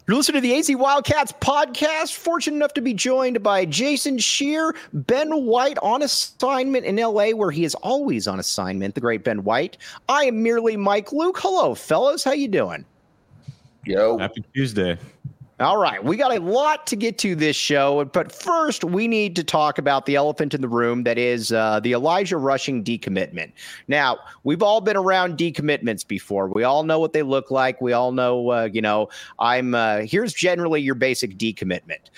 You're listening to the AZ Wildcats podcast. Fortunate enough to be joined by Jason Scheer, Ben White on assignment in LA, where he is always on assignment, the great Ben White. I am merely Mike Luke. Hello, fellas. How you doing? Yo. Happy Tuesday. All right, we got a lot to get to this show, but first we need to talk about the elephant in the room that is the Elijah Rushing decommitment. Now, we've all been around decommitments before. We all know what they look like. We all know, here's generally your basic decommitment.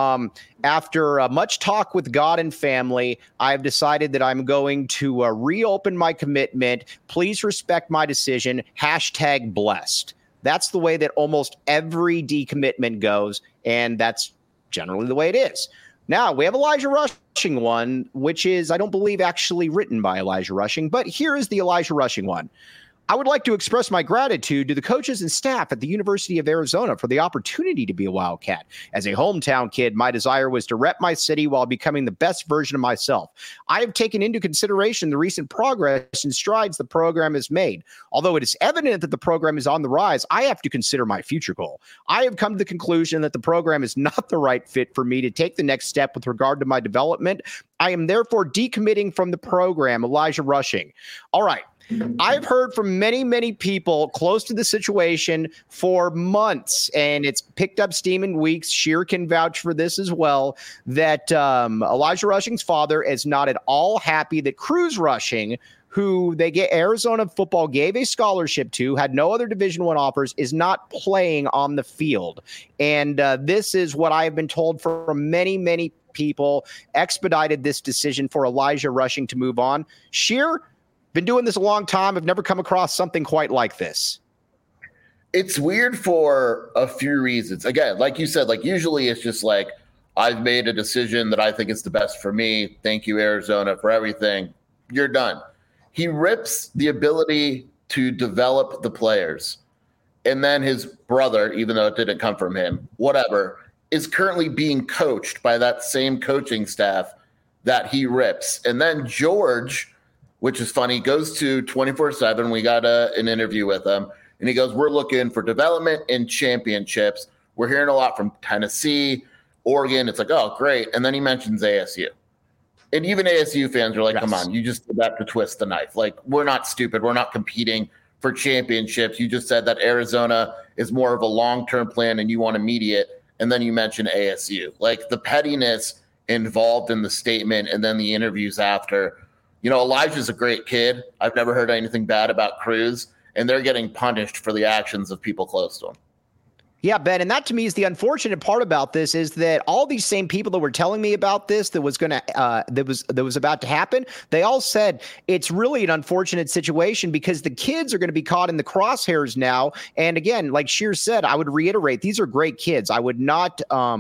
After much talk with God and family, I've decided that I'm going to reopen my commitment. Please respect my decision. #blessed. That's the way that almost every decommitment goes, and that's generally the way it is. Now, we have Elijah Rushing one, which is, I don't believe, actually written by Elijah Rushing, but here is the Elijah Rushing one. I would like to express my gratitude to the coaches and staff at the University of Arizona for the opportunity to be a Wildcat. As a hometown kid, my desire was to rep my city while becoming the best version of myself. I have taken into consideration the recent progress and strides the program has made. Although it is evident that the program is on the rise, I have to consider my future goal. I have come to the conclusion that the program is not the right fit for me to take the next step with regard to my development. I am therefore decommitting from the program. Elijah Rushing. All right. I've heard from many, many people close to the situation for months, and it's picked up steam in weeks. Scheer can vouch for this as well, that Elijah Rushing's father is not at all happy that Cruz Rushing, who Arizona football gave a scholarship to, had no other Division I offers, is not playing on the field. And this is what I have been told from many, many people expedited this decision for Elijah Rushing to move on. Scheer, been doing this a long time. I've never come across something quite like this. It's weird for a few reasons. Again, like you said, like usually it's just like, I've made a decision that I think is the best for me. Thank you, Arizona, for everything. You're done. He rips the ability to develop the players. And then his brother, even though it didn't come from him, whatever, is currently being coached by that same coaching staff that he rips. And then George, which is funny, goes to 24/7. We got an interview with him, and he goes, we're looking for development and championships. We're hearing a lot from Tennessee, Oregon. It's like, oh, great. And then he mentions ASU. And even ASU fans are like, Come on, you just did that to twist the knife. Like, we're not stupid. We're not competing for championships. You just said that Arizona is more of a long-term plan and you want immediate, and then you mention ASU. Like, the pettiness involved in the statement and then the interviews after. You know, Elijah's a great kid. I've never heard anything bad about Cruz, and they're getting punished for the actions of people close to him. Yeah, Ben, and that to me is the unfortunate part about this is that all these same people that were telling me about this, that was about to happen, they all said it's really an unfortunate situation because the kids are going to be caught in the crosshairs now. And again, like Scheer said, I would reiterate, these are great kids. I would not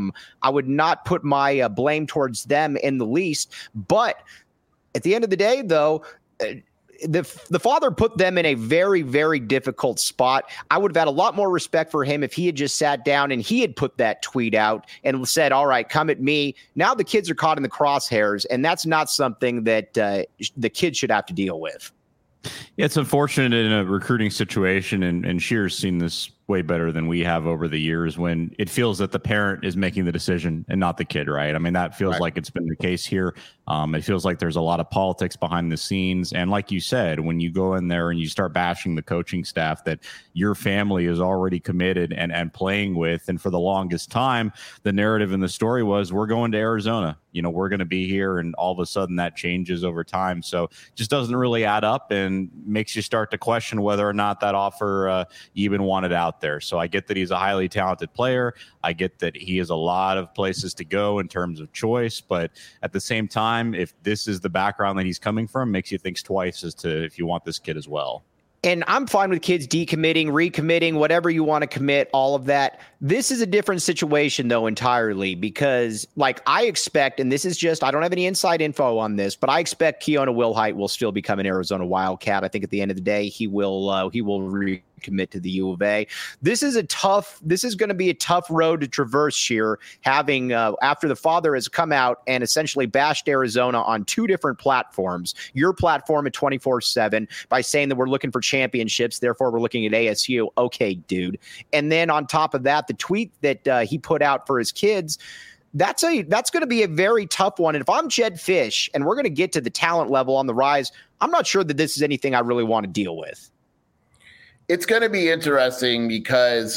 put my blame towards them in the least, but at the end of the day, though, the father put them in a very, very difficult spot. I would have had a lot more respect for him if he had just sat down and he had put that tweet out and said, all right, come at me. Now the kids are caught in the crosshairs, and that's not something that the kids should have to deal with. Yeah, it's unfortunate in a recruiting situation, and Scheer's seen this way better than we have over the years when it feels that the parent is making the decision and not the kid, right? I mean, that feels like it's been the case here. It feels like there's a lot of politics behind the scenes. And like you said, when you go in there and you start bashing the coaching staff that your family is already committed and playing with, and for the longest time, the narrative in the story was, we're going to Arizona. You know, we're going to be here, and all of a sudden that changes over time. So just doesn't really add up and makes you start to question whether or not that offer you even wanted out there. So I get that he's a highly talented player. I get that he has a lot of places to go in terms of choice, but at the same time, if this is the background that he's coming from, makes you think twice as to if you want this kid as well. And I'm fine with kids decommitting, recommitting, whatever you want to commit, all of that. This is a different situation, though, entirely, because like I expect, and this is just, I don't have any inside info on this, but I expect Keona Wilhite will still become an Arizona Wildcat. I think at the end of the day, he will recommit. commit to the U of A. This is going to be a tough road to traverse here, having after the father has come out and essentially bashed Arizona on two different platforms. Your platform at 24/7 by saying that we're looking for championships, therefore we're looking at ASU. Okay, dude. And then on top of that, the tweet that he put out for his kids, that's going to be a very tough one. And if I'm Jedd Fisch and we're going to get to the talent level on the rise, I'm not sure that this is anything I really want to deal with. It's going to be interesting because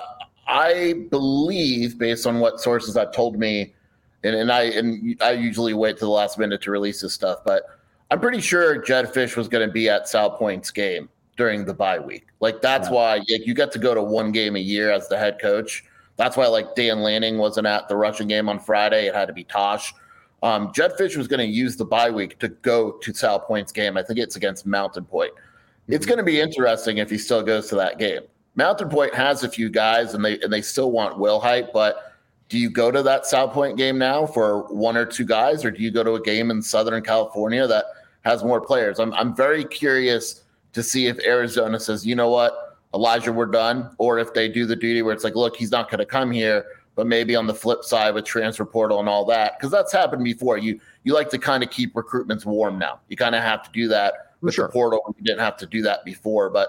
I believe, based on what sources have told me, and I usually wait to the last minute to release this stuff, but I'm pretty sure Jedd Fisch was going to be at Sal Point's game during the bye week. Like, that's why you got to go to one game a year as the head coach. That's why, like, Dan Lanning wasn't at the Russian game on Friday. It had to be Tosh. Jedd Fisch was going to use the bye week to go to Sal Point's game. I think it's against Mountain Point. It's going to be interesting if he still goes to that game. Mountain Point has a few guys, and they still want Wilhite, but do you go to that Sal Point game now for one or two guys, or do you go to a game in Southern California that has more players? I'm very curious to see if Arizona says, you know what, Elijah, we're done, or if they do the duty where it's like, look, he's not going to come here, but maybe on the flip side with transfer portal and all that, because that's happened before. You like to kind of keep recruitments warm now. You kind of have to do that with the portal. You didn't have to do that before, but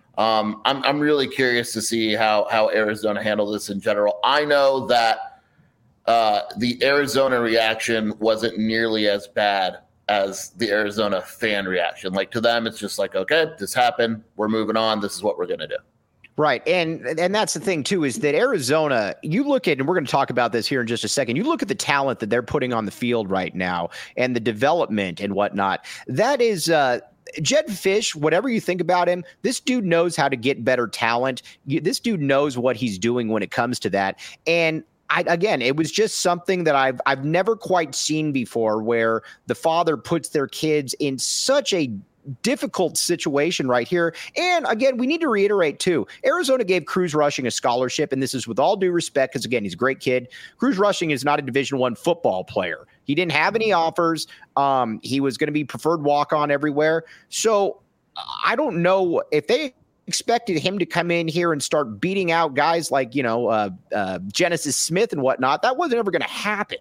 I'm really curious to see how Arizona handle this in general. I know that the Arizona reaction wasn't nearly as bad as the Arizona fan reaction. Like, to them, it's just like, okay, this happened. We're moving on. This is what we're going to do. Right. And that's the thing, too, is that Arizona, you look at, and we're going to talk about this here in just a second, you look at the talent that they're putting on the field right now and the development and whatnot. That is Jedd Fisch, whatever you think about him, this dude knows how to get better talent. This dude knows what he's doing when it comes to that. And again, it was just something that I've never quite seen before, where the father puts their kids in such a difficult situation right here. And again, we need to reiterate too, Arizona gave Cruz Rushing a scholarship, and this is with all due respect, because again, he's a great kid. Cruz Rushing is not a Division I football player. He didn't have any offers. He was going to be preferred walk-on everywhere. So I don't know if they expected him to come in here and start beating out guys like, Genesis Smith and whatnot. That wasn't ever going to happen.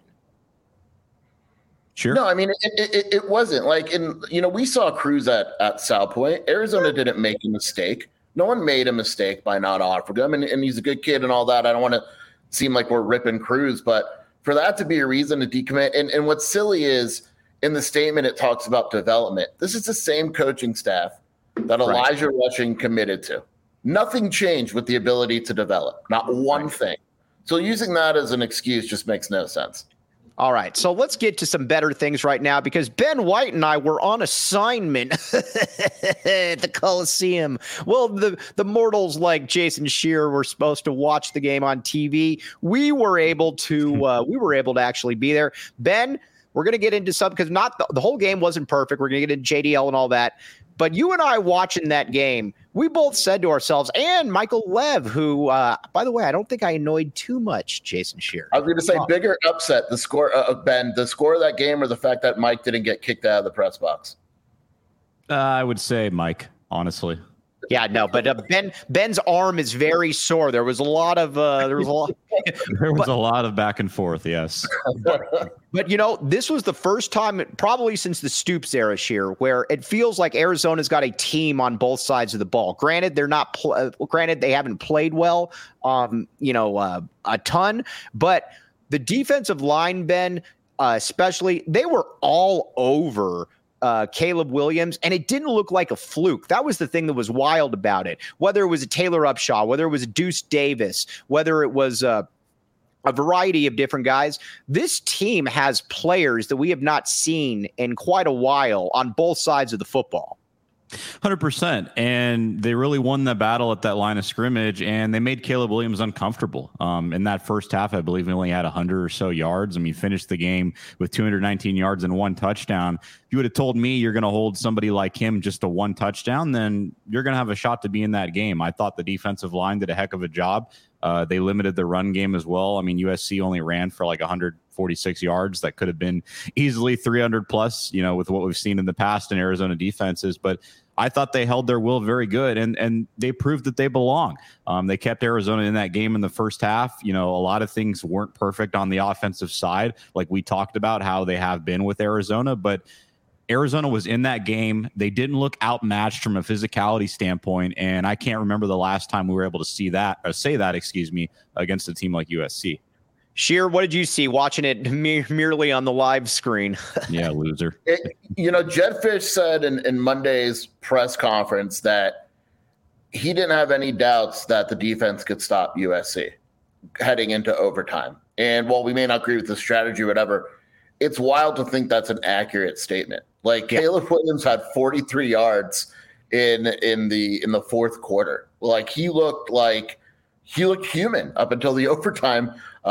Sure. No, I mean, it wasn't like, we saw Cruz at Sal Point. Arizona didn't make a mistake. No one made a mistake by not offering him, and he's a good kid and all that. I don't want to seem like we're ripping Cruz, but for that to be a reason to decommit, and what's silly is in the statement, it talks about development. This is the same coaching staff that Elijah Rushing committed to. Nothing changed with the ability to develop, not one thing. So using that as an excuse just makes no sense. All right, so let's get to some better things right now, because Ben White and I were on assignment at the Coliseum. Well, the mortals like Jason Scheer were supposed to watch the game on TV. We were able to actually be there. Ben, we're going to get into some, because not the whole game wasn't perfect. We're going to get into JDL and all that. But you and I watching that game, we both said to ourselves, and Michael Lev, who, by the way, I don't think I annoyed too much Jason Scheer. I was going to say, bigger upset, the score of Ben, the score of that game, or the fact that Mike didn't get kicked out of the press box? I would say Mike, honestly. Yeah, no, but Ben's arm is very sore. There was a lot of there was a lot of back and forth. Yes, but this was the first time, probably since the Stoops era, Scheer, where it feels like Arizona's got a team on both sides of the ball. Granted, they're not. Granted, they haven't played well, a ton, but the defensive line, Ben, especially, they were all over Caleb Williams, and it didn't look like a fluke. That was the thing that was wild about it. Whether it was a Taylor Upshaw, whether it was a Deuce Davis, whether it was a variety of different guys, this team has players that we have not seen in quite a while on both sides of the football. 100%. And they really won the battle at that line of scrimmage, and they made Caleb Williams uncomfortable. In that first half, I believe he only had 100 or so yards. I mean, he finished the game with 219 yards and one touchdown. If you would have told me you're going to hold somebody like him just to one touchdown, then you're going to have a shot to be in that game. I thought the defensive line did a heck of a job. They limited the run game as well. I mean, USC only ran for like 146 yards. That could have been easily 300 plus, with what we've seen in the past in Arizona defenses. But I thought they held their will very good, and they proved that they belong. They kept Arizona in that game in the first half. A lot of things weren't perfect on the offensive side, like we talked about how they have been with Arizona, but Arizona was in that game. They didn't look outmatched from a physicality standpoint, and I can't remember the last time we were able to say that, against a team like USC. Sheer, what did you see watching it merely on the live screen? Yeah, loser. Jedd Fisch said in Monday's press conference that he didn't have any doubts that the defense could stop USC heading into overtime. And while we may not agree with the strategy or whatever, it's wild to think that's an accurate statement. Like Caleb Williams had 43 yards in the fourth quarter. Like he looked human up until the overtime.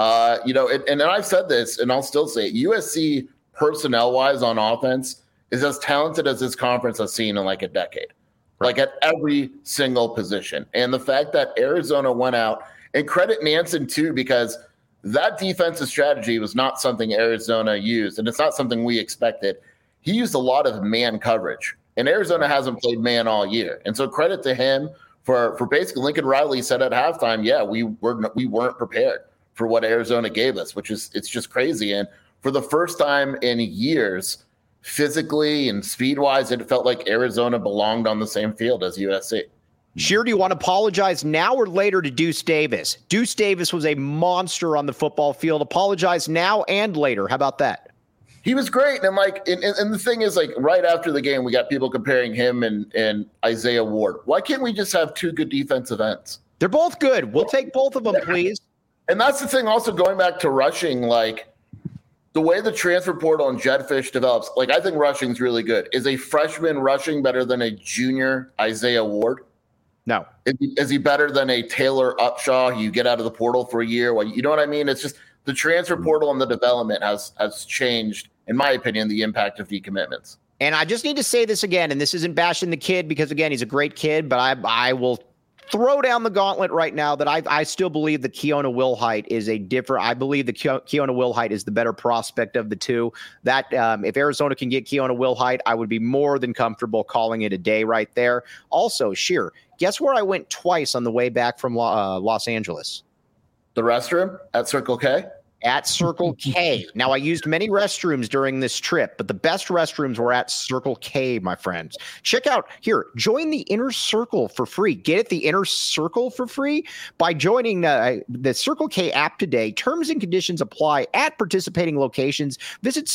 And I've said this, and I'll still say it. USC personnel-wise on offense is as talented as this conference has seen in like a decade, like at every single position. And the fact that Arizona went out, and credit Nansen too, because that defensive strategy was not something Arizona used, and it's not something we expected. He used a lot of man coverage, and Arizona hasn't played man all year. And so credit to him for basically Lincoln Riley said at halftime, we weren't prepared for what Arizona gave us, it's just crazy. And for the first time in years, physically and speed-wise, it felt like Arizona belonged on the same field as USC. Sheer, do you want to apologize now or later to Deuce Davis? Deuce Davis was a monster on the football field. Apologize now and later. How about that? He was great. And and the thing is, like, right after the game, we got people comparing him and Isaiah Ward. Why can't we just have two good defensive ends? They're both good. We'll take both of them, please. And that's the thing also, going back to rushing, like the way the transfer portal and Jedd Fisch develops, like I think rushing's really good. Is a freshman rushing better than a junior Isaiah Ward? No. Is he better than a Taylor Upshaw? You get out of the portal for a year. Well, you know what I mean? It's just the transfer portal and the development has changed, in my opinion, the impact of decommitments. And I just need to say this again, and this isn't bashing the kid because, again, he's a great kid, but I will throw down the gauntlet right now that I still believe that Keona Wilhite is I believe that Keona Wilhite is the better prospect of the two. That if Arizona can get Keona Wilhite, I would be more than comfortable calling it a day right there. Also, Sheer, guess where I went twice on the way back from Los Angeles? The restroom at Circle K? At Circle K. Now, I used many restrooms during this trip, but the best restrooms were at Circle K, my friends. Check out here. Join the Inner Circle for free. Get it, the Inner Circle for free by joining the Circle K app today. Terms and conditions apply at participating locations. Visit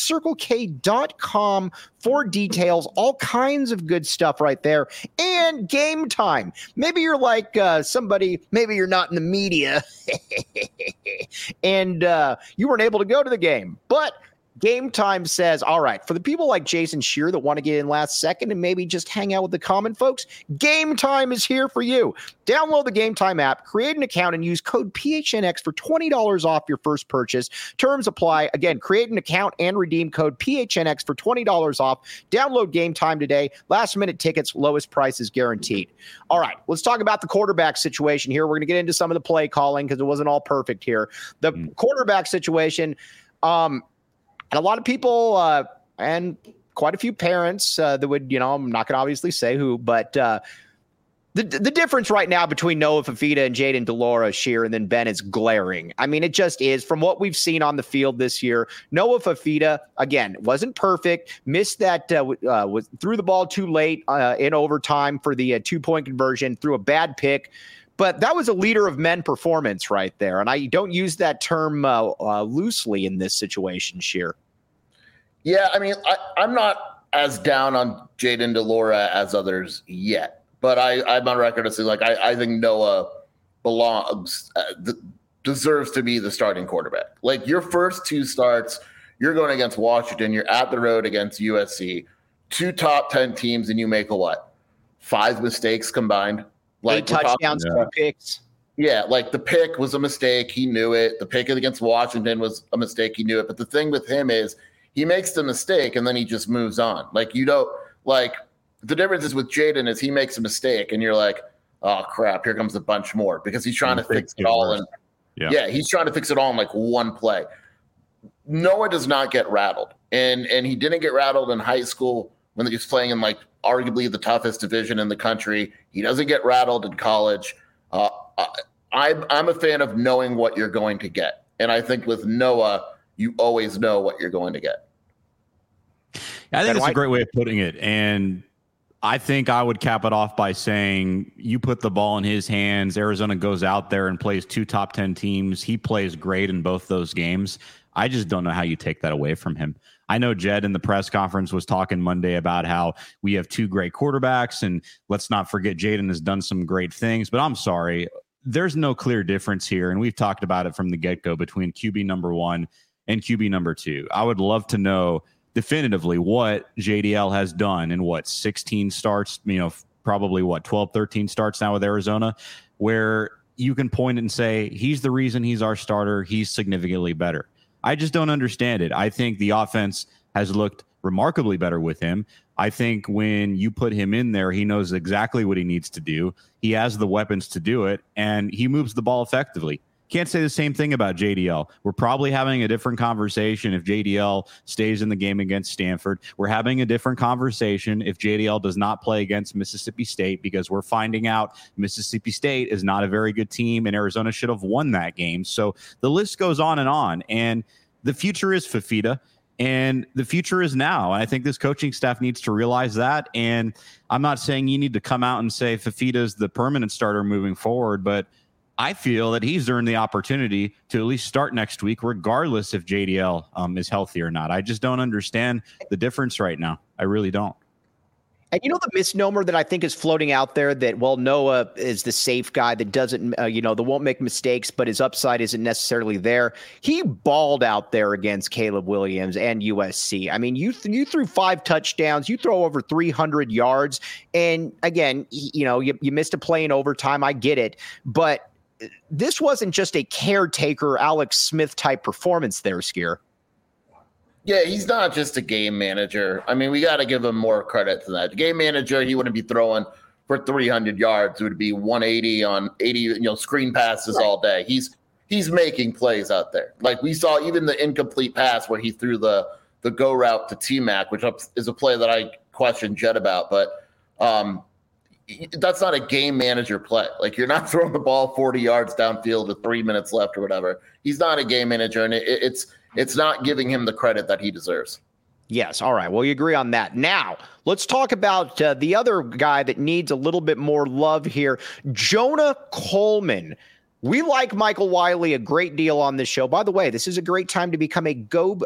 CircleK.com for details. All kinds of good stuff right there. And Game Time. Maybe you're like somebody, maybe you're not in the media and you weren't able to go to the game, but Game Time says, all right, for the people like Jason Sheer that want to get in last second and maybe just hang out with the common folks, Game Time is here for you. Download the Game Time app, create an account, and use code PHNX for $20 off your first purchase. Terms apply. Again, create an account and redeem code PHNX for $20 off. Download Game Time today. Last-minute tickets, lowest prices guaranteed. All right, let's talk about the quarterback situation here. We're going to get into some of the play calling because it wasn't all perfect here. The quarterback situation, and a lot of people and quite a few parents that would, I'm not going to obviously say who, but the difference right now between Noah Fifita and Jayden de Laura, Sheer, and then Ben is glaring. I mean, it just is. From what we've seen on the field this year, Noah Fifita, again, wasn't perfect, missed that, threw the ball too late in overtime for the 2-point conversion, threw a bad pick. But that was a leader of men performance right there. And I don't use that term loosely in this situation, Sheer. Yeah, I mean, I'm not as down on Jayden de Laura as others yet. But I'm on record to say, like, I think Noah deserves to be the starting quarterback. Like, your first two starts, you're going against Washington. You're at the road against USC. 2 top 10 teams, and you make 5 mistakes combined? Like 8 touchdowns, 2 picks. Yeah, like the pick was a mistake. He knew it. The pick against Washington was a mistake. He knew it. But the thing with him is he makes the mistake and then he just moves on. Like, the difference is with Jayden is he makes a mistake and you're like, oh, crap, here comes a bunch more because he's trying to fix it all. And he's trying to fix it all in like one play. Noah does not get rattled. And he didn't get rattled in high school when he was playing in like arguably the toughest division in the country. He doesn't get rattled in college. I'm a fan of knowing what you're going to get. And I think with Noah, you always know what you're going to get. I think that's a great way of putting it. And I think I would cap it off by saying you put the ball in his hands. Arizona goes out there and plays 2 top 10 teams. He plays great in both those games. I just don't know how you take that away from him. I know Jed in the press conference was talking Monday about how we have 2 great quarterbacks, and let's not forget Jaden has done some great things, but I'm sorry. There's no clear difference here, and we've talked about it from the get-go between QB number 1 and QB number 2. I would love to know definitively what JDL has done in 16 starts, probably 12, 13 starts now with Arizona, where you can point and say, he's the reason he's our starter. He's significantly better. I just don't understand it. I think the offense has looked remarkably better with him. I think when you put him in there, he knows exactly what he needs to do. He has the weapons to do it, and he moves the ball effectively. Can't say the same thing about JDL. We're probably having a different conversation if JDL stays in the game against Stanford. We're having a different conversation if JDL does not play against Mississippi State, because we're finding out Mississippi State is not a very good team and Arizona should have won that game. So the list goes on, and the future is Fifita. And the future is now. And I think this coaching staff needs to realize that. And I'm not saying you need to come out and say Fifita is the permanent starter moving forward, but I feel that he's earned the opportunity to at least start next week, regardless if JDL is healthy or not. I just don't understand the difference right now. I really don't. And the misnomer that I think is floating out there that, Noah is the safe guy that doesn't, that won't make mistakes, but his upside isn't necessarily there. He balled out there against Caleb Williams and USC. I mean, you threw 5 touchdowns, you throw over 300 yards. And again, you missed a play in overtime. I get it. But this wasn't just a caretaker Alex Smith type performance there, Skier. Yeah, he's not just a game manager. I mean, we got to give him more credit to that. Game manager, he wouldn't be throwing for 300 yards. It would be 180 on 80, screen passes all day. He's making plays out there. Like we saw even the incomplete pass where he threw the go route to T-Mac, which is a play that I questioned Jed about. But that's not a game manager play. Like you're not throwing the ball 40 yards downfield with 3 minutes left or whatever. He's not a game manager, and it's not giving him the credit that he deserves. Yes. All right. Well, you agree on that. Now, let's talk about the other guy that needs a little bit more love here, Jonah Coleman. We like Michael Wiley a great deal on this show. By the way, this is a great time to become a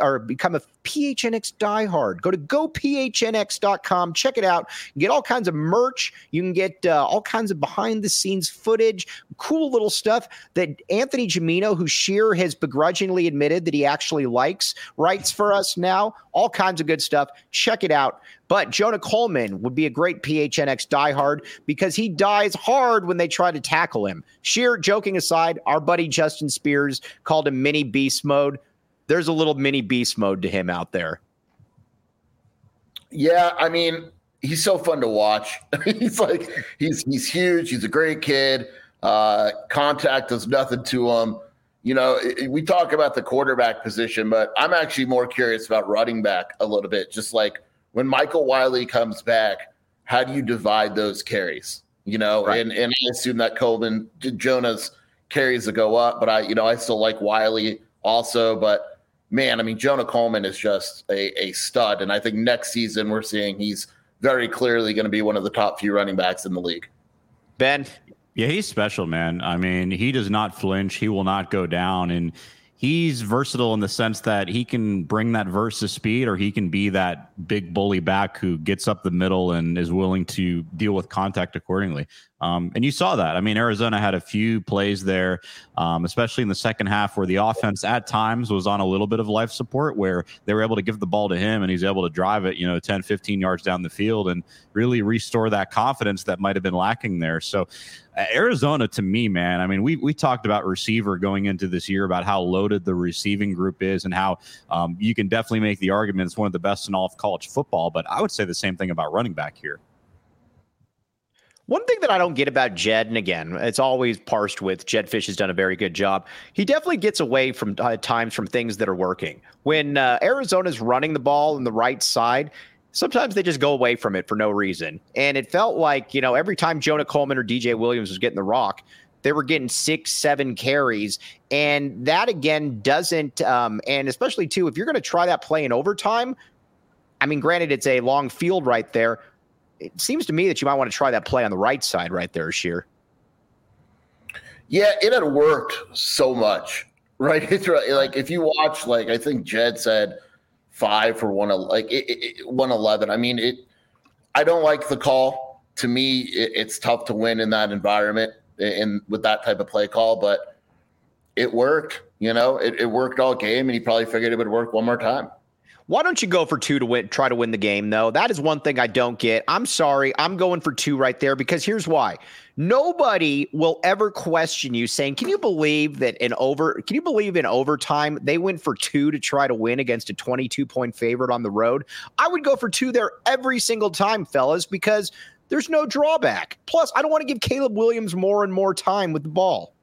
PHNX diehard. Go to gophnx.com. Check it out. Get all kinds of merch. You can get all kinds of behind-the-scenes footage, cool little stuff that Anthony Gimino, who Sheer has begrudgingly admitted that he actually likes, writes for us now. All kinds of good stuff. Check it out. But Jonah Coleman would be a great PHNX diehard because he dies hard when they try to tackle him. Sheer, joking aside, our buddy Justin Spears called him mini beast mode. There's a little mini beast mode to him out there. Yeah, I mean, he's so fun to watch. He's huge. He's a great kid. Contact does nothing to him. We talk about the quarterback position, but I'm actually more curious about running back a little bit. Just like when Michael Wiley comes back, how do you divide those carries? Right. And I assume that Jonah's carries will go up, but I still like Wiley also. But man, I mean, Jonah Coleman is just a stud. And I think next season we're seeing he's very clearly going to be one of the top few running backs in the league. Ben? Yeah, he's special, man. I mean, he does not flinch. He will not go down. And he's versatile in the sense that he can bring that versus speed, or he can be that big bully back who gets up the middle and is willing to deal with contact accordingly. And you saw that. I mean, Arizona had a few plays there, especially in the second half, where the offense at times was on a little bit of life support, where they were able to give the ball to him and he's able to drive it, 10, 15 yards down the field and really restore that confidence that might have been lacking there. So Arizona, to me, man, I mean, we talked about receiver going into this year, about how loaded the receiving group is and how you can definitely make the argument it's one of the best in all of college football. But I would say the same thing about running back here. One thing that I don't get about Jed, and again, it's always parsed with Jed Fish has done a very good job. He definitely gets away from times from things that are working. When Arizona's running the ball on the right side, Sometimes they just go away from it for no reason. And it felt like, every time Jonah Coleman or DJ Williams was getting the rock, they were getting 6-7 carries. And that, again, doesn't and especially, too, if you're going to try that play in overtime, I mean, granted, it's a long field right there. It seems to me that you might want to try that play on the right side right there, Sheer. Yeah, it had worked so much, right? It's like if you watch, like I think Jed said 5 for 111. I mean, I don't like the call. To me, it's tough to win in that environment and with that type of play call, but it worked. It worked all game, and he probably figured it would work one more time. Why don't you go for 2 to win? Try to win the game, though. That is one thing I don't get. I'm sorry. I'm going for 2 right there because here's why. Nobody will ever question you saying, can you believe in overtime they went for 2 to try to win against a 22-point favorite on the road? I would go for 2 there every single time, fellas, because there's no drawback. Plus, I don't want to give Caleb Williams more and more time with the ball.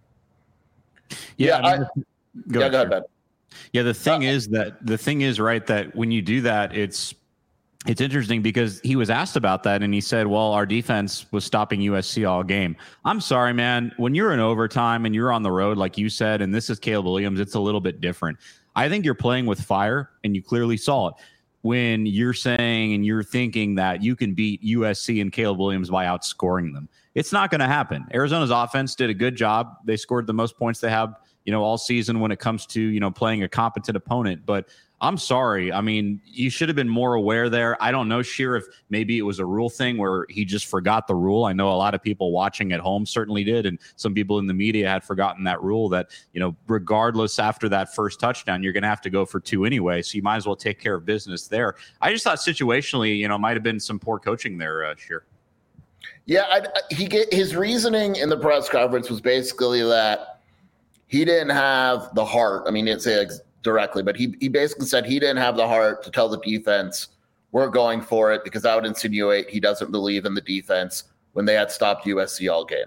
Go ahead, Ben. Yeah, the thing is, right, that when you do that, it's interesting because he was asked about that and he said, well, our defense was stopping USC all game. I'm sorry, man. When you're in overtime and you're on the road, like you said, and this is Caleb Williams, it's a little bit different. I think you're playing with fire, and you clearly saw it when you're saying and you're thinking that you can beat USC and Caleb Williams by outscoring them. It's not going to happen. Arizona's offense did a good job. They scored the most points they have all season when it comes to, playing a competent opponent. But I'm sorry. I mean, you should have been more aware there. I don't know, Sheer, if maybe it was a rule thing where he just forgot the rule. I know a lot of people watching at home certainly did. And some people in the media had forgotten that rule that, regardless after that first touchdown, you're going to have to go for 2 anyway. So you might as well take care of business there. I just thought situationally, might have been some poor coaching there, Sheer. Yeah, his reasoning in the press conference was basically that he didn't have the heart. I mean, he didn't say it directly, but he basically said he didn't have the heart to tell the defense, we're going for it, because that would insinuate he doesn't believe in the defense when they had stopped USC all game.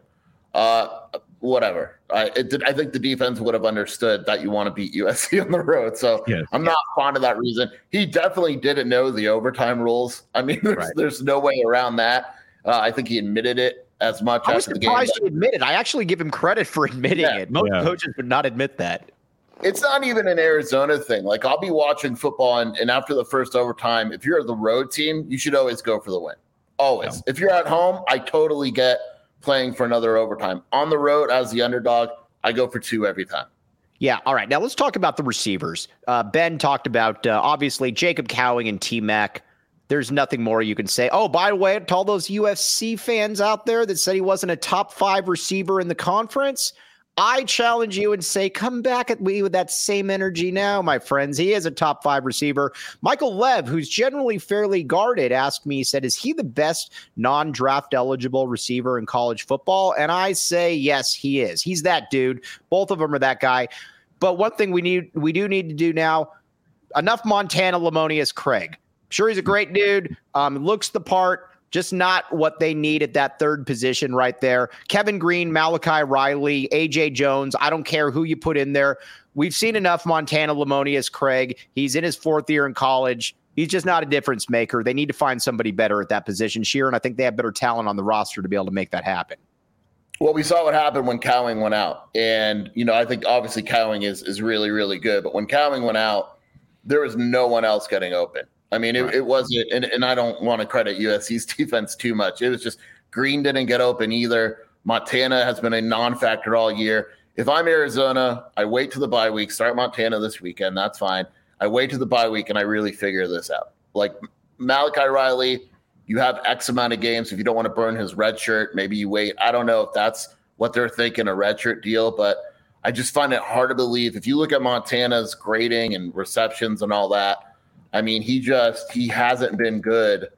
Whatever. I think the defense would have understood that you want to beat USC on the road. So yes. I'm not fond of that reason. He definitely didn't know the overtime rules. I mean, there's no way around that. I think he admitted it as much after the game. I was surprised he admitted. I actually give him credit for admitting it. Most coaches would not admit that. It's not even an Arizona thing. Like, I'll be watching football, and after the first overtime, if you're the road team, you should always go for the win. Always. Yeah. If you're at home, I totally get playing for another overtime. On the road, as the underdog, I go for 2 every time. Yeah. All right. Now let's talk about the receivers. Ben talked about, obviously, Jacob Cowing and T-Mac. There's nothing more you can say. Oh, by the way, to all those UFC fans out there that said he wasn't a top 5 receiver in the conference, I challenge you and say, come back at me with that same energy now, my friends. He is a top 5 receiver. Michael Lev, who's generally fairly guarded, asked me, he said, is he the best non-draft eligible receiver in college football? And I say, yes, he is. He's that dude. Both of them are that guy. But one thing we do need to do now, enough Montana Lamonius Craig. Sure, he's a great dude. Looks the part, just not what they need at that third position right there. Kevin Green, Malachi Riley, A.J. Jones, I don't care who you put in there. We've seen enough Montana Lamonius Craig. He's in his 4th year in college. He's just not a difference maker. They need to find somebody better at that position, Sheer, and I think they have better talent on the roster to be able to make that happen. Well, we saw what happened when Cowing went out. And, I think obviously Cowing is really, really good. But when Cowing went out, there was no one else getting open. I mean, it wasn't, and I don't want to credit USC's defense too much. It was just Green didn't get open either. Montana has been a non-factor all year. If I'm Arizona, I wait to the bye week, start Montana this weekend. That's fine. I wait to the bye week and I really figure this out. Like Malachi Riley, you have X amount of games. If you don't want to burn his red shirt, maybe you wait. I don't know if that's what they're thinking, a red shirt deal, but I just find it hard to believe. If you look at Montana's grading and receptions and all that, I mean, he hasn't been good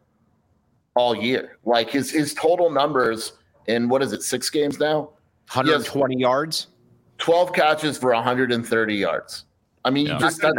all year. Like his total numbers in, 6 games now? 120 yards? 12 catches for 130 yards. I mean,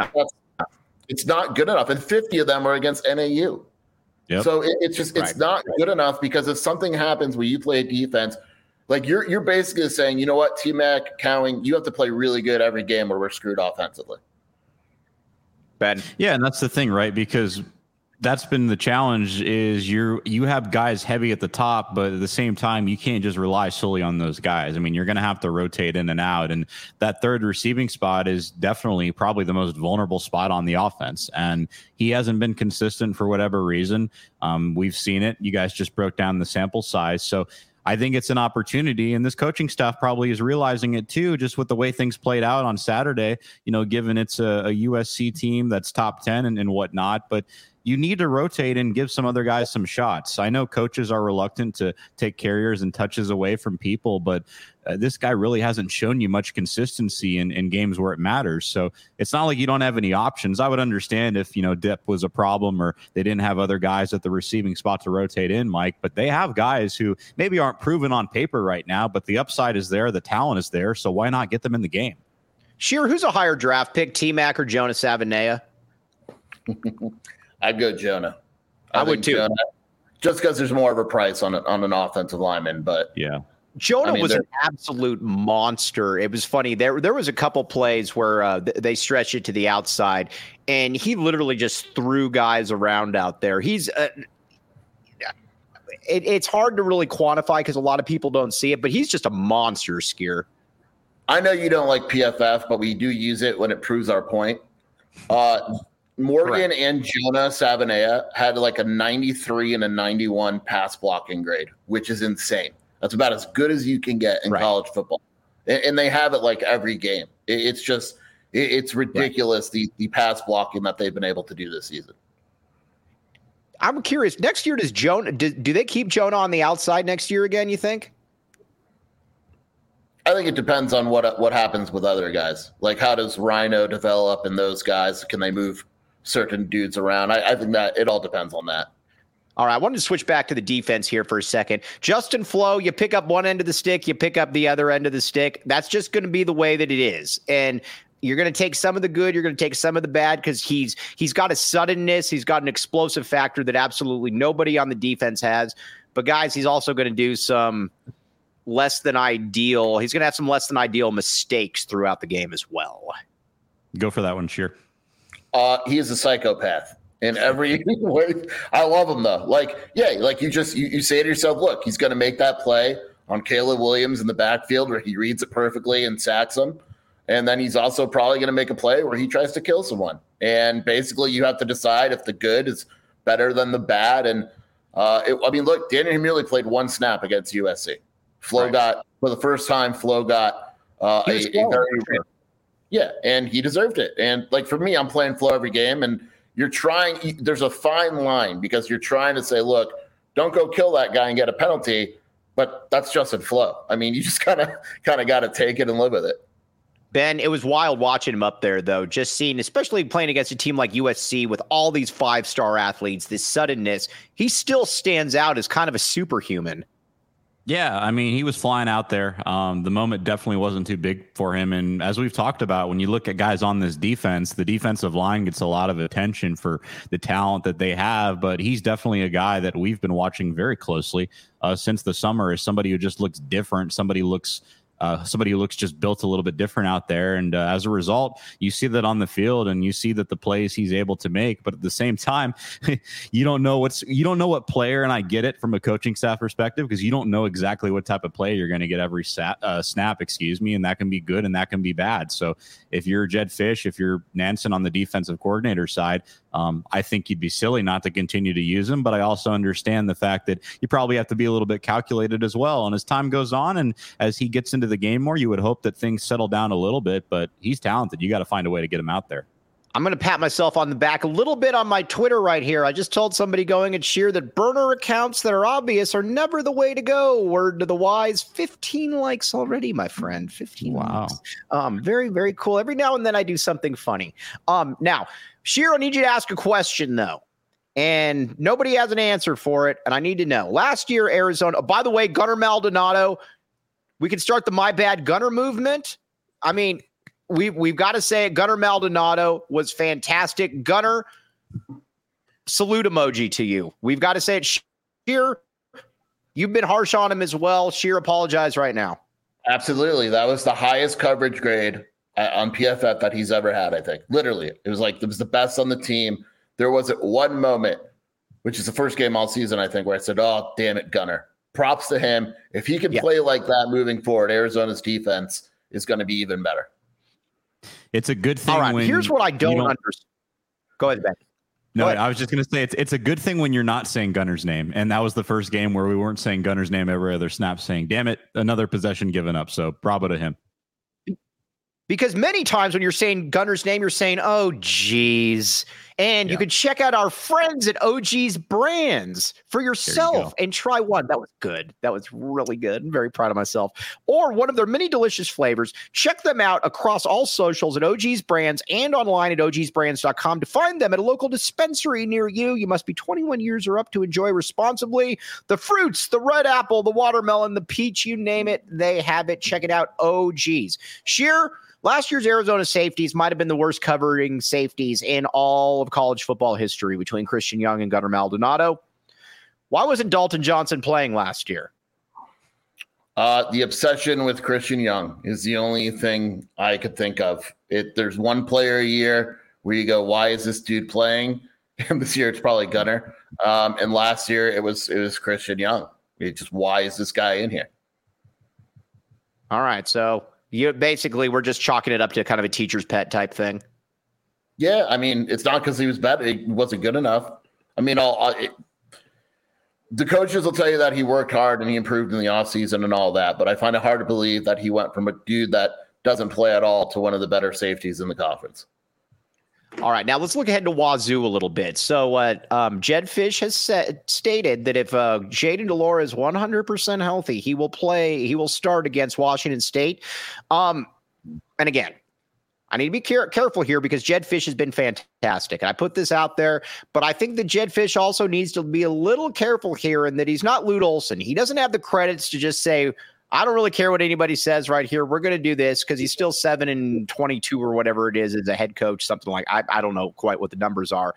it's not good enough. And 50 of them are against NAU. Yep. So it's not good enough, because if something happens where you play defense, like you're basically saying, you know what, T-Mac, Cowing, you have to play really good every game or we're screwed offensively. Ben. Yeah, and that's the thing, right? Because That's been the challenge is you have guys heavy at the top, but at the same time, you can't just rely solely on those guys. I mean, you're going to have to rotate in and out. And that third receiving spot is definitely probably the most vulnerable spot on the offense. And he hasn't been consistent for whatever reason. We've seen it. You guys just broke down the sample size. So I think it's an opportunity, and this coaching staff probably is realizing it too, just with the way things played out on Saturday, given it's a USC team that's top 10 and whatnot. But you need to rotate and give some other guys some shots. I know coaches are reluctant to take carriers and touches away from people, but this guy really hasn't shown you much consistency in games where it matters. So it's not like you don't have any options. I would understand if, depth was a problem or they didn't have other guys at the receiving spot to rotate in, Mike, but they have guys who maybe aren't proven on paper right now, but the upside is there. The talent is there. So why not get them in the game? Sheer, who's a higher draft pick, T-Mac or Jonah Savaiinaea? I'd go Jonah. I would too. Jonah, just because there's more of a price on an offensive lineman, but yeah. Jonah was an absolute monster. It was funny. There was a couple plays where they stretched it to the outside, and he literally just threw guys around out there. It's hard to really quantify because a lot of people don't see it, but he's just a monster skier. I know you don't like PFF, but we do use it when it proves our point. Morgan Correct. And Jonah Savaiinaea had like a 93 and a 91 pass blocking grade, which is insane. That's about as good as you can get in college football. And they have it like every game. It's just, it's ridiculous, the pass blocking that they've been able to do this season. I'm curious, next year, do they keep Jonah on the outside next year again, you think? I think it depends on what happens with other guys. Like, how does Rhino develop and those guys? Can they move certain dudes around? I think that it all depends on that. All right, I wanted to switch back to the defense here for a second. Justin Flo, you pick up one end of the stick, you pick up the other end of the stick. That's just going to be the way that it is. And you're going to take some of the good, you're going to take some of the bad because he's got a suddenness, he's got an explosive factor that absolutely nobody on the defense has. But guys, he's also going to do some less than ideal. He's going to have some less than ideal mistakes throughout the game as well. Go for that one, Sheer. He is a psychopath in every way. I love him though. Like you say to yourself, look, he's going to make that play on Caleb Williams in the backfield where he reads it perfectly and sacks him. And then he's also probably going to make a play where he tries to kill someone. And basically you have to decide if the good is better than the bad. And look, Daniel Humilly played one snap against USC. Flo got, for the first time, and he deserved it. And like for me, I'm playing Flo every game, and there's a fine line because you're trying to say, look, don't go kill that guy and get a penalty, but that's Justin Flo. I mean, you just kind of got to take it and live with it. Ben, it was wild watching him up there, though, just seeing, especially playing against a team like USC with all these five-star athletes, this suddenness, he still stands out as kind of a superhuman. Yeah, I mean, he was flying out there. The moment definitely wasn't too big for him. And as we've talked about, when you look at guys on this defense, the defensive line gets a lot of attention for the talent that they have. But he's definitely a guy that we've been watching very closely since the summer as somebody who just looks different. Somebody who looks just built a little bit different out there. And as a result, you see that on the field and you see that the plays he's able to make. But at the same time, you don't know what player. And I get it from a coaching staff perspective, because you don't know exactly what type of play you're going to get every snap, and that can be good and that can be bad. So if you're Jedd Fisch, if you're Nansen on the defensive coordinator side, I think you'd be silly not to continue to use him. But I also understand the fact that you probably have to be a little bit calculated as well. And as time goes on and as he gets into the game more, you would hope that things settle down a little bit, but he's talented. You got to find a way to get him out there. I'm going to pat myself on the back a little bit on my Twitter right here. I just told somebody going at Sheer that burner accounts that are obvious are never the way to go. Word to the wise. 15 likes already, my friend. 15 likes. Very, very cool. Every now and then I do something funny. Now, Sheer, I need you to ask a question, though. And nobody has an answer for it, and I need to know. Last year, Arizona, by the way, Gunnar Maldonado, we can start the My Bad Gunner movement. I mean, we've got to say it. Gunnar Maldonado was fantastic. Gunnar, salute emoji to you. We've got to say it. Sheer, you've been harsh on him as well. Sheer, apologize right now. Absolutely. That was the highest coverage grade on PFF that he's ever had, I think. Literally. It was the best on the team. There wasn't one moment which is the first game all season, I think, where I said, oh, damn it, Gunner. Props to him. If he can play like that moving forward, Arizona's defense is going to be even better. It's a good thing. All right, here's what I don't understand. Go ahead, Ben. No, I was just going to say it's a good thing when you're not saying Gunner's name. And that was the first game where we weren't saying Gunner's name every other snap, saying, damn it, another possession given up. So bravo to him. Because many times when you're saying Gunner's name, you're saying, oh, geez. And you can check out our friends at OG's Brands for yourself and try one. That was good. That was really good. I'm very proud of myself. Or one of their many delicious flavors. Check them out across all socials at OG's Brands and online at ogsbrands.com to find them at a local dispensary near you. You must be 21 years or up to enjoy responsibly. The fruits, the red apple, the watermelon, the peach, you name it, they have it. Check it out, OG's. Sheer. Last year's Arizona safeties might have been the worst covering safeties in all of college football history between Christian Young and Gunnar Maldonado. Why wasn't Dalton Johnson playing last year? The obsession with Christian Young is the only thing I could think of. There's one player a year where you go, why is this dude playing? And this year it's probably Gunnar. And last year it was Christian Young. Why is this guy in here? All right, so we're just chalking it up to kind of a teacher's pet type thing. Yeah, I mean, it's not because he was bad; it wasn't good enough. I mean, the coaches will tell you that he worked hard and he improved in the offseason and all that, but I find it hard to believe that he went from a dude that doesn't play at all to one of the better safeties in the conference. All right, now let's look ahead to Wazoo a little bit. So Jedd Fisch has stated that if Jayden de Laura is 100% healthy, he will start against Washington State. And again, I need to be careful here because Jedd Fisch has been fantastic. And I put this out there, but I think that Jedd Fisch also needs to be a little careful here in that he's not Lute Olson. He doesn't have the credits to just say, I don't really care what anybody says right here. We're going to do this because he's still 7-22 or whatever it is as a head coach, something like I don't know quite what the numbers are.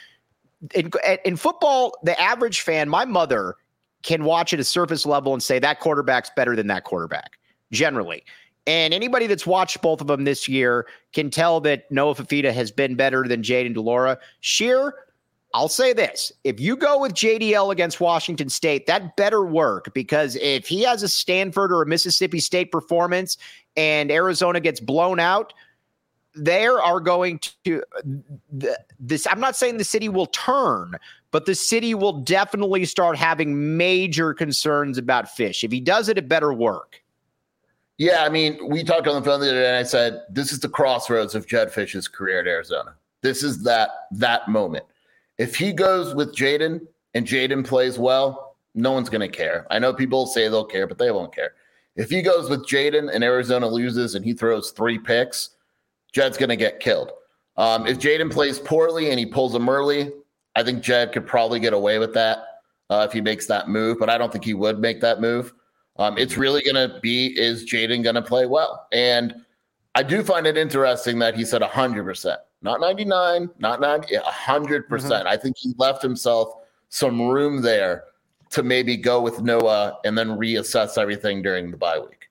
In football, the average fan, my mother, can watch at a surface level and say that quarterback's better than that quarterback, generally. And anybody that's watched both of them this year can tell that Noah Fifita has been better than Jayden de Laura. Sheer, I'll say this. If you go with JDL against Washington State, that better work because if he has a Stanford or a Mississippi State performance and Arizona gets blown out, there are going to this. I'm not saying the city will turn, but the city will definitely start having major concerns about Fisch. If he does it, it better work. Yeah, I mean, we talked on the phone the other day and I said, this is the crossroads of Jedd Fisch's career at Arizona. This is that moment. If he goes with Jayden and Jayden plays well, no one's going to care. I know people say they'll care, but they won't care. If he goes with Jayden and Arizona loses and he throws 3 picks, Jedd's going to get killed. If Jayden plays poorly and he pulls him early, I think Jedd could probably get away with that if he makes that move, but I don't think he would make that move. It's really going to be, is Jayden going to play well? And I do find it interesting that he said 100%. Not 99, not 90, 100%. Mm-hmm. I think he left himself some room there to maybe go with Noah and then reassess everything during the bye week.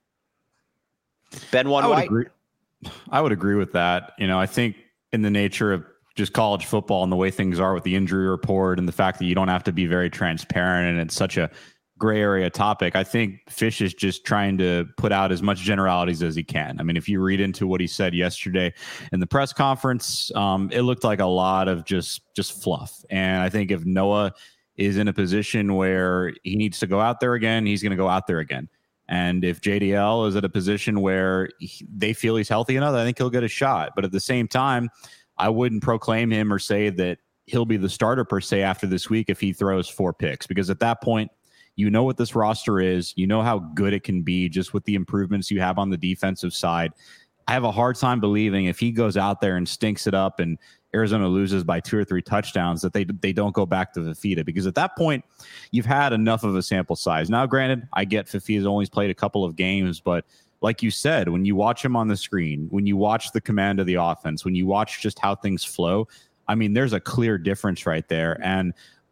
Ben White. I would agree with that. You know, I think in the nature of just college football and the way things are with the injury report and the fact that you don't have to be very transparent and it's such a gray area topic, I think Fisch is just trying to put out as much generalities as he can. I mean, if you read into what he said yesterday in the press conference, it looked like a lot of just fluff. And I think if Noah is in a position where he needs to go out there again, he's going to go out there again. And if JDL is at a position where they feel he's healthy enough, I think he'll get a shot. But at the same time, I wouldn't proclaim him or say that he'll be the starter per se after this week if he throws 4 picks, because at that point, you know what this roster is. You know how good it can be just with the improvements you have on the defensive side. I have a hard time believing if he goes out there and stinks it up and Arizona loses by 2 or 3 touchdowns that they don't go back to Fifita, because at that point, you've had enough of a sample size. Now, granted, I get Fifita's only played a couple of games, but like you said, when you watch him on the screen, when you watch the command of the offense, when you watch just how things flow, I mean, there's a clear difference right there. And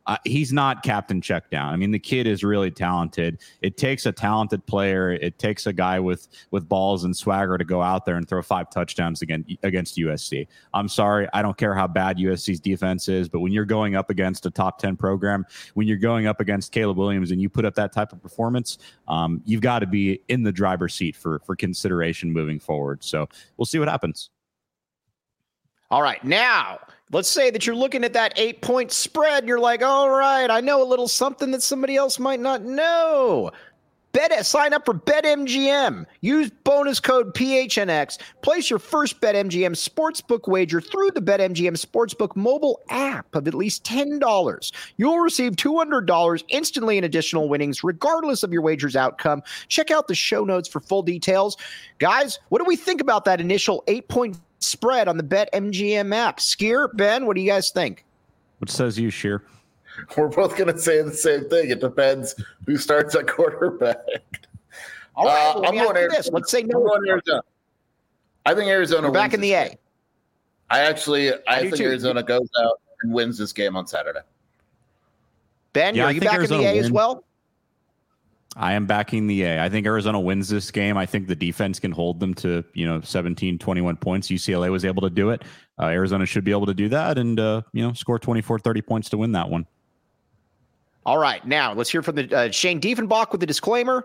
He's not captain check down. I mean, the kid is really talented. It takes a talented player. It takes a guy with balls and swagger to go out there and throw 5 touchdowns against USC. I'm sorry. I don't care how bad USC's defense is, but when you're going up against a top 10 program, when you're going up against Caleb Williams and you put up that type of performance, you've got to be in the driver's seat for consideration moving forward. So we'll see what happens. All right. Now, let's say that you're looking at that 8-point spread and you're like, all right, I know a little something that somebody else might not know. Sign up for BetMGM. Use bonus code PHNX. Place your first BetMGM sportsbook wager through the BetMGM Sportsbook mobile app of at least $10. You'll receive $200 instantly in additional winnings, regardless of your wager's outcome. Check out the show notes for full details. Guys, what do we think about that initial 8-point spread on the BetMGM app? Skier, Ben, what do you guys think? What says you, Sheer? We're both going to say the same thing. It depends who starts at quarterback. All right, well, I'm going to this. Let's say no. Arizona. I think Arizona wins back in the A. I think Arizona goes out and wins this game on Saturday. Ben, are you back in the A as well? I am backing the A. I think Arizona wins this game. I think the defense can hold them to, 17, 21 points. UCLA was able to do it. Arizona should be able to do that and, score 24, 30 points to win that one. All right. Now let's hear from the Shane Diefenbach with the disclaimer.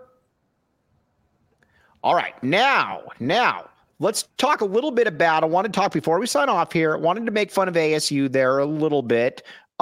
All right. Now let's talk a little bit about, I want to talk before we sign off here. I wanted to make fun of ASU there a little bit.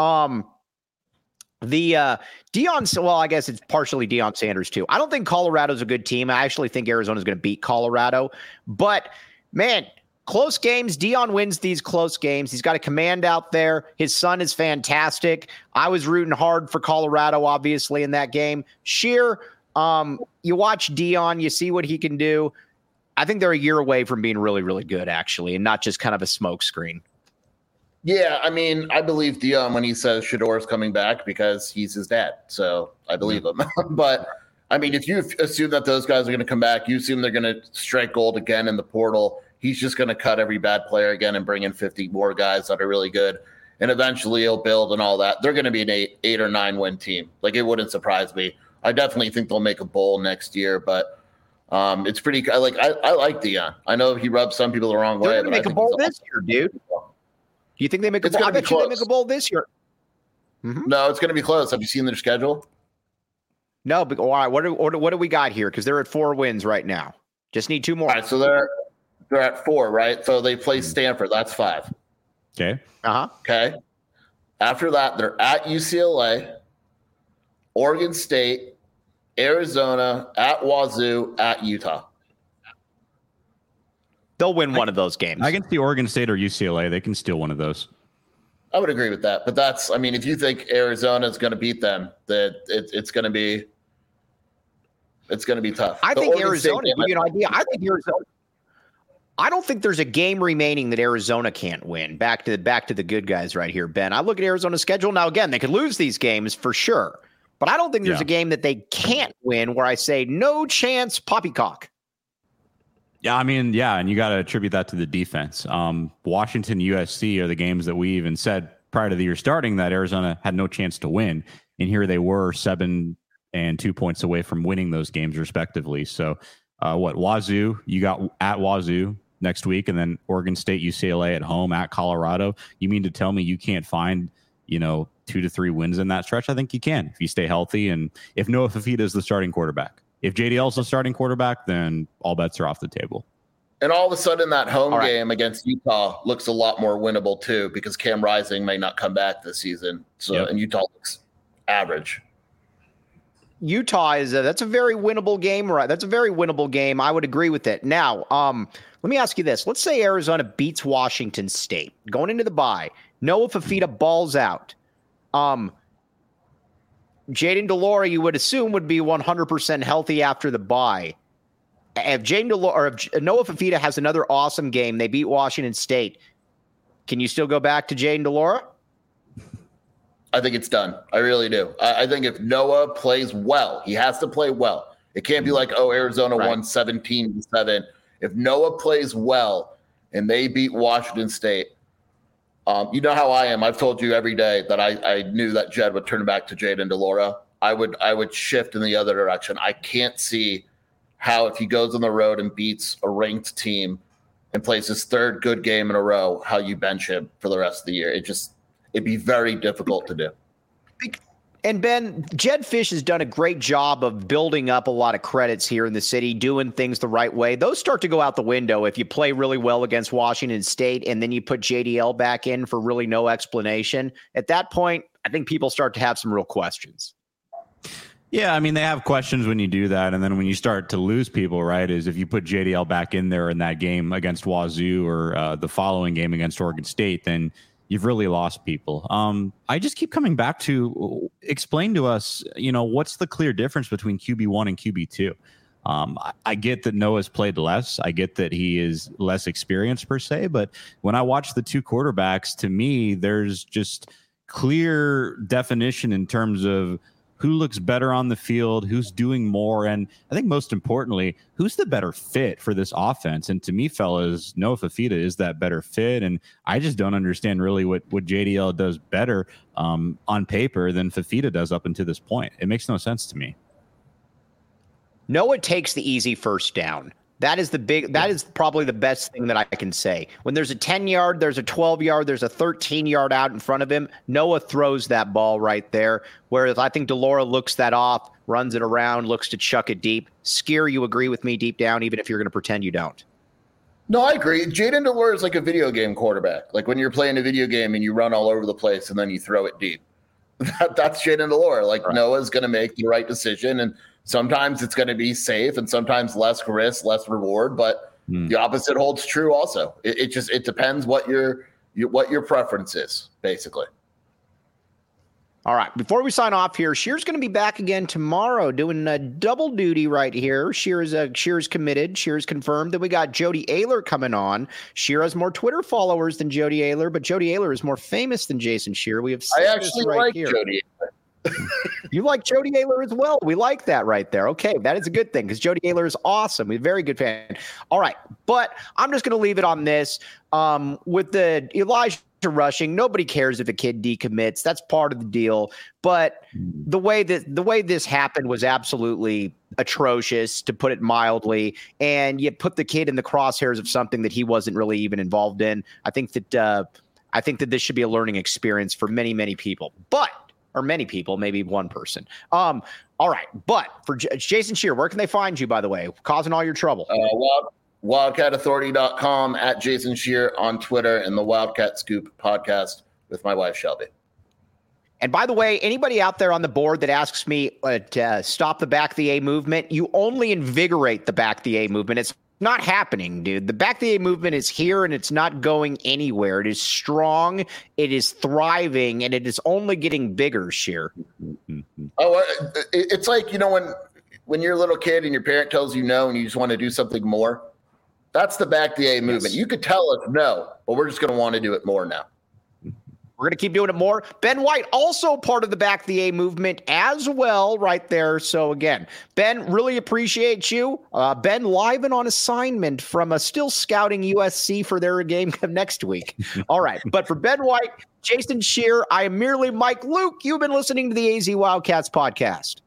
I guess it's partially Deion Sanders too. I don't think Colorado's a good team. I actually think Arizona's going to beat Colorado. But, man, close games. Deion wins these close games. He's got a command out there. His son is fantastic. I was rooting hard for Colorado, obviously, in that game. Sheer, you watch Deion, you see what he can do. I think they're a year away from being really, really good, actually, and not just kind of a smokescreen. Yeah, I mean, I believe Deion when he says Shedeur is coming back because he's his dad. So I believe him. But, I mean, if you assume that those guys are going to come back, you assume they're going to strike gold again in the portal. He's just going to cut every bad player again and bring in 50 more guys that are really good. And eventually he'll build and all that. They're going to be an 8 or 9 win team. Like, it wouldn't surprise me. I definitely think they'll make a bowl next year. But it's pretty – I like Deion. I know he rubs some people the wrong way. They're going to make a bowl this year, dude. Do you think they make a bowl? I bet you they make a bowl this year. Mm-hmm. No, it's going to be close. Have you seen their schedule? No, but all right. What do we got here? Because they're at 4 wins right now. Just need 2 more. All right, so they're at 4, right? So they play Stanford. That's 5. Okay. Okay. After that, they're at UCLA, Oregon State, Arizona, at Wazoo, at Utah. They'll win one of those games. I can see Oregon State or UCLA. They can steal one of those. I would agree with that. But that's, I mean, if you think Arizona is going to beat them, that it's going to be tough. I think Arizona, to give you an idea, I don't think there's a game remaining that Arizona can't win. Back to the good guys right here, Ben. I look at Arizona's schedule. Now, again, they could lose these games for sure. But I don't think there's a game that they can't win where I say, no chance, poppycock. Yeah, I mean, and you got to attribute that to the defense. Washington, USC are the games that we even said prior to the year starting that Arizona had no chance to win. And here they were 7 and 2 points away from winning those games respectively. So Wazoo, you got at Wazoo next week, and then Oregon State, UCLA at home, at Colorado. You mean to tell me you can't find, 2 to 3 wins in that stretch? I think you can if you stay healthy. And if Noah Fifita is the starting quarterback. If JDL is the starting quarterback, then all bets are off the table. And all of a sudden, that home game against Utah looks a lot more winnable, too, because Cam Rising may not come back this season. So, And Utah looks average. Utah that's a very winnable game, right? That's a very winnable game. I would agree with it. Now, let me ask you this. Let's say Arizona beats Washington State going into the bye. Noah Fifita balls out. Jayden de Laura, you would assume, would be 100% healthy after the bye. If Noah Fifita has another awesome game, they beat Washington State, can you still go back to Jayden de Laura? I think it's done. I really do. I think if Noah plays well, he has to play well. It can't be like, Arizona won 17-7. If Noah plays well and they beat Washington State, You know how I am. I've told you every day that I knew that Jed would turn back to Jayden de Laura. I would shift in the other direction. I can't see how, if he goes on the road and beats a ranked team and plays his third good game in a row, how you bench him for the rest of the year. It'd be very difficult to do. And Ben, Jedd Fisch has done a great job of building up a lot of credits here in the city, doing things the right way. Those start to go out the window if you play really well against Washington State and then you put JDL back in for really no explanation. At that point, I think people start to have some real questions. Yeah, I mean, they have questions when you do that. And then when you start to lose people, right, is if you put JDL back in there in that game against Wazoo or the following game against Oregon State, then you've really lost people. I just keep coming back to explain to us, what's the clear difference between QB1 and QB2? I get that Noah's played less. I get that he is less experienced per se. But when I watch the two quarterbacks, to me, there's just clear definition in terms of who looks better on the field, who's doing more, and I think most importantly, who's the better fit for this offense. And to me, fellas, Noah Fifita is that better fit, and I just don't understand really what JDL does better on paper than Fifita does up until this point. It makes no sense to me. Noah takes the easy first down. That is probably the best thing that I can say. When there's a 10-yard, there's a 12-yard, there's a 13-yard out in front of him, Noah throws that ball right there. Whereas I think de Laura looks that off, runs it around, looks to chuck it deep. Skier, you agree with me deep down, even if you're going to pretend you don't? No, I agree. Jayden de Laura is like a video game quarterback. Like when you're playing a video game and you run all over the place and then you throw it deep. That's Jayden de Laura. Like right. Noah's going to make the right decision, and sometimes it's going to be safe and sometimes less risk, less reward, but the opposite holds true also. It depends what your preference is, basically. All right. Before we sign off here, Shear's going to be back again tomorrow doing a double duty right here. Shear's committed. Shear's confirmed. Then we got Jody Ayler coming on. Shear has more Twitter followers than Jody Ayler, but Jody Ayler is more famous than Jason Shear. We have I actually right like here. Jody Ayler. You like Jody Ayler as well. We like that right there. Okay, that is a good thing because Jody Ayler is awesome. He's a very good fan. All right, but I'm just going to leave it on this. With the Elijah rushing, nobody cares if a kid decommits. That's part of the deal. But the way this happened was absolutely atrocious, to put it mildly. And you put the kid in the crosshairs of something that he wasn't really even involved in. I think that this should be a learning experience for many, many people. Or many people, maybe one person. All right. But for Jason Shear, where can they find you, by the way, causing all your trouble? WildcatAuthority.com, at Jason Shear on Twitter, and the Wildcat Scoop podcast with my wife, Shelby. And by the way, anybody out there on the board that asks me to stop the back the A movement, you only invigorate the back the A movement. It's not happening, dude. The back the A movement is here and it's not going anywhere. It is strong, it is thriving, and it is only getting bigger, Shear. Oh, it's like, when you're a little kid and your parent tells you no and you just want to do something more. That's the back the A movement. Yes. You could tell us no, but we're just going to want to do it more now. We're going to keep doing it more. Ben White, also part of the back the A movement as well, right there. So again, Ben, really appreciate you. Ben live and on assignment from still scouting USC for their game next week. All right. But for Ben White, Jason Shear, I am merely Mike Luke. You've been listening to the AZ Wildcats podcast.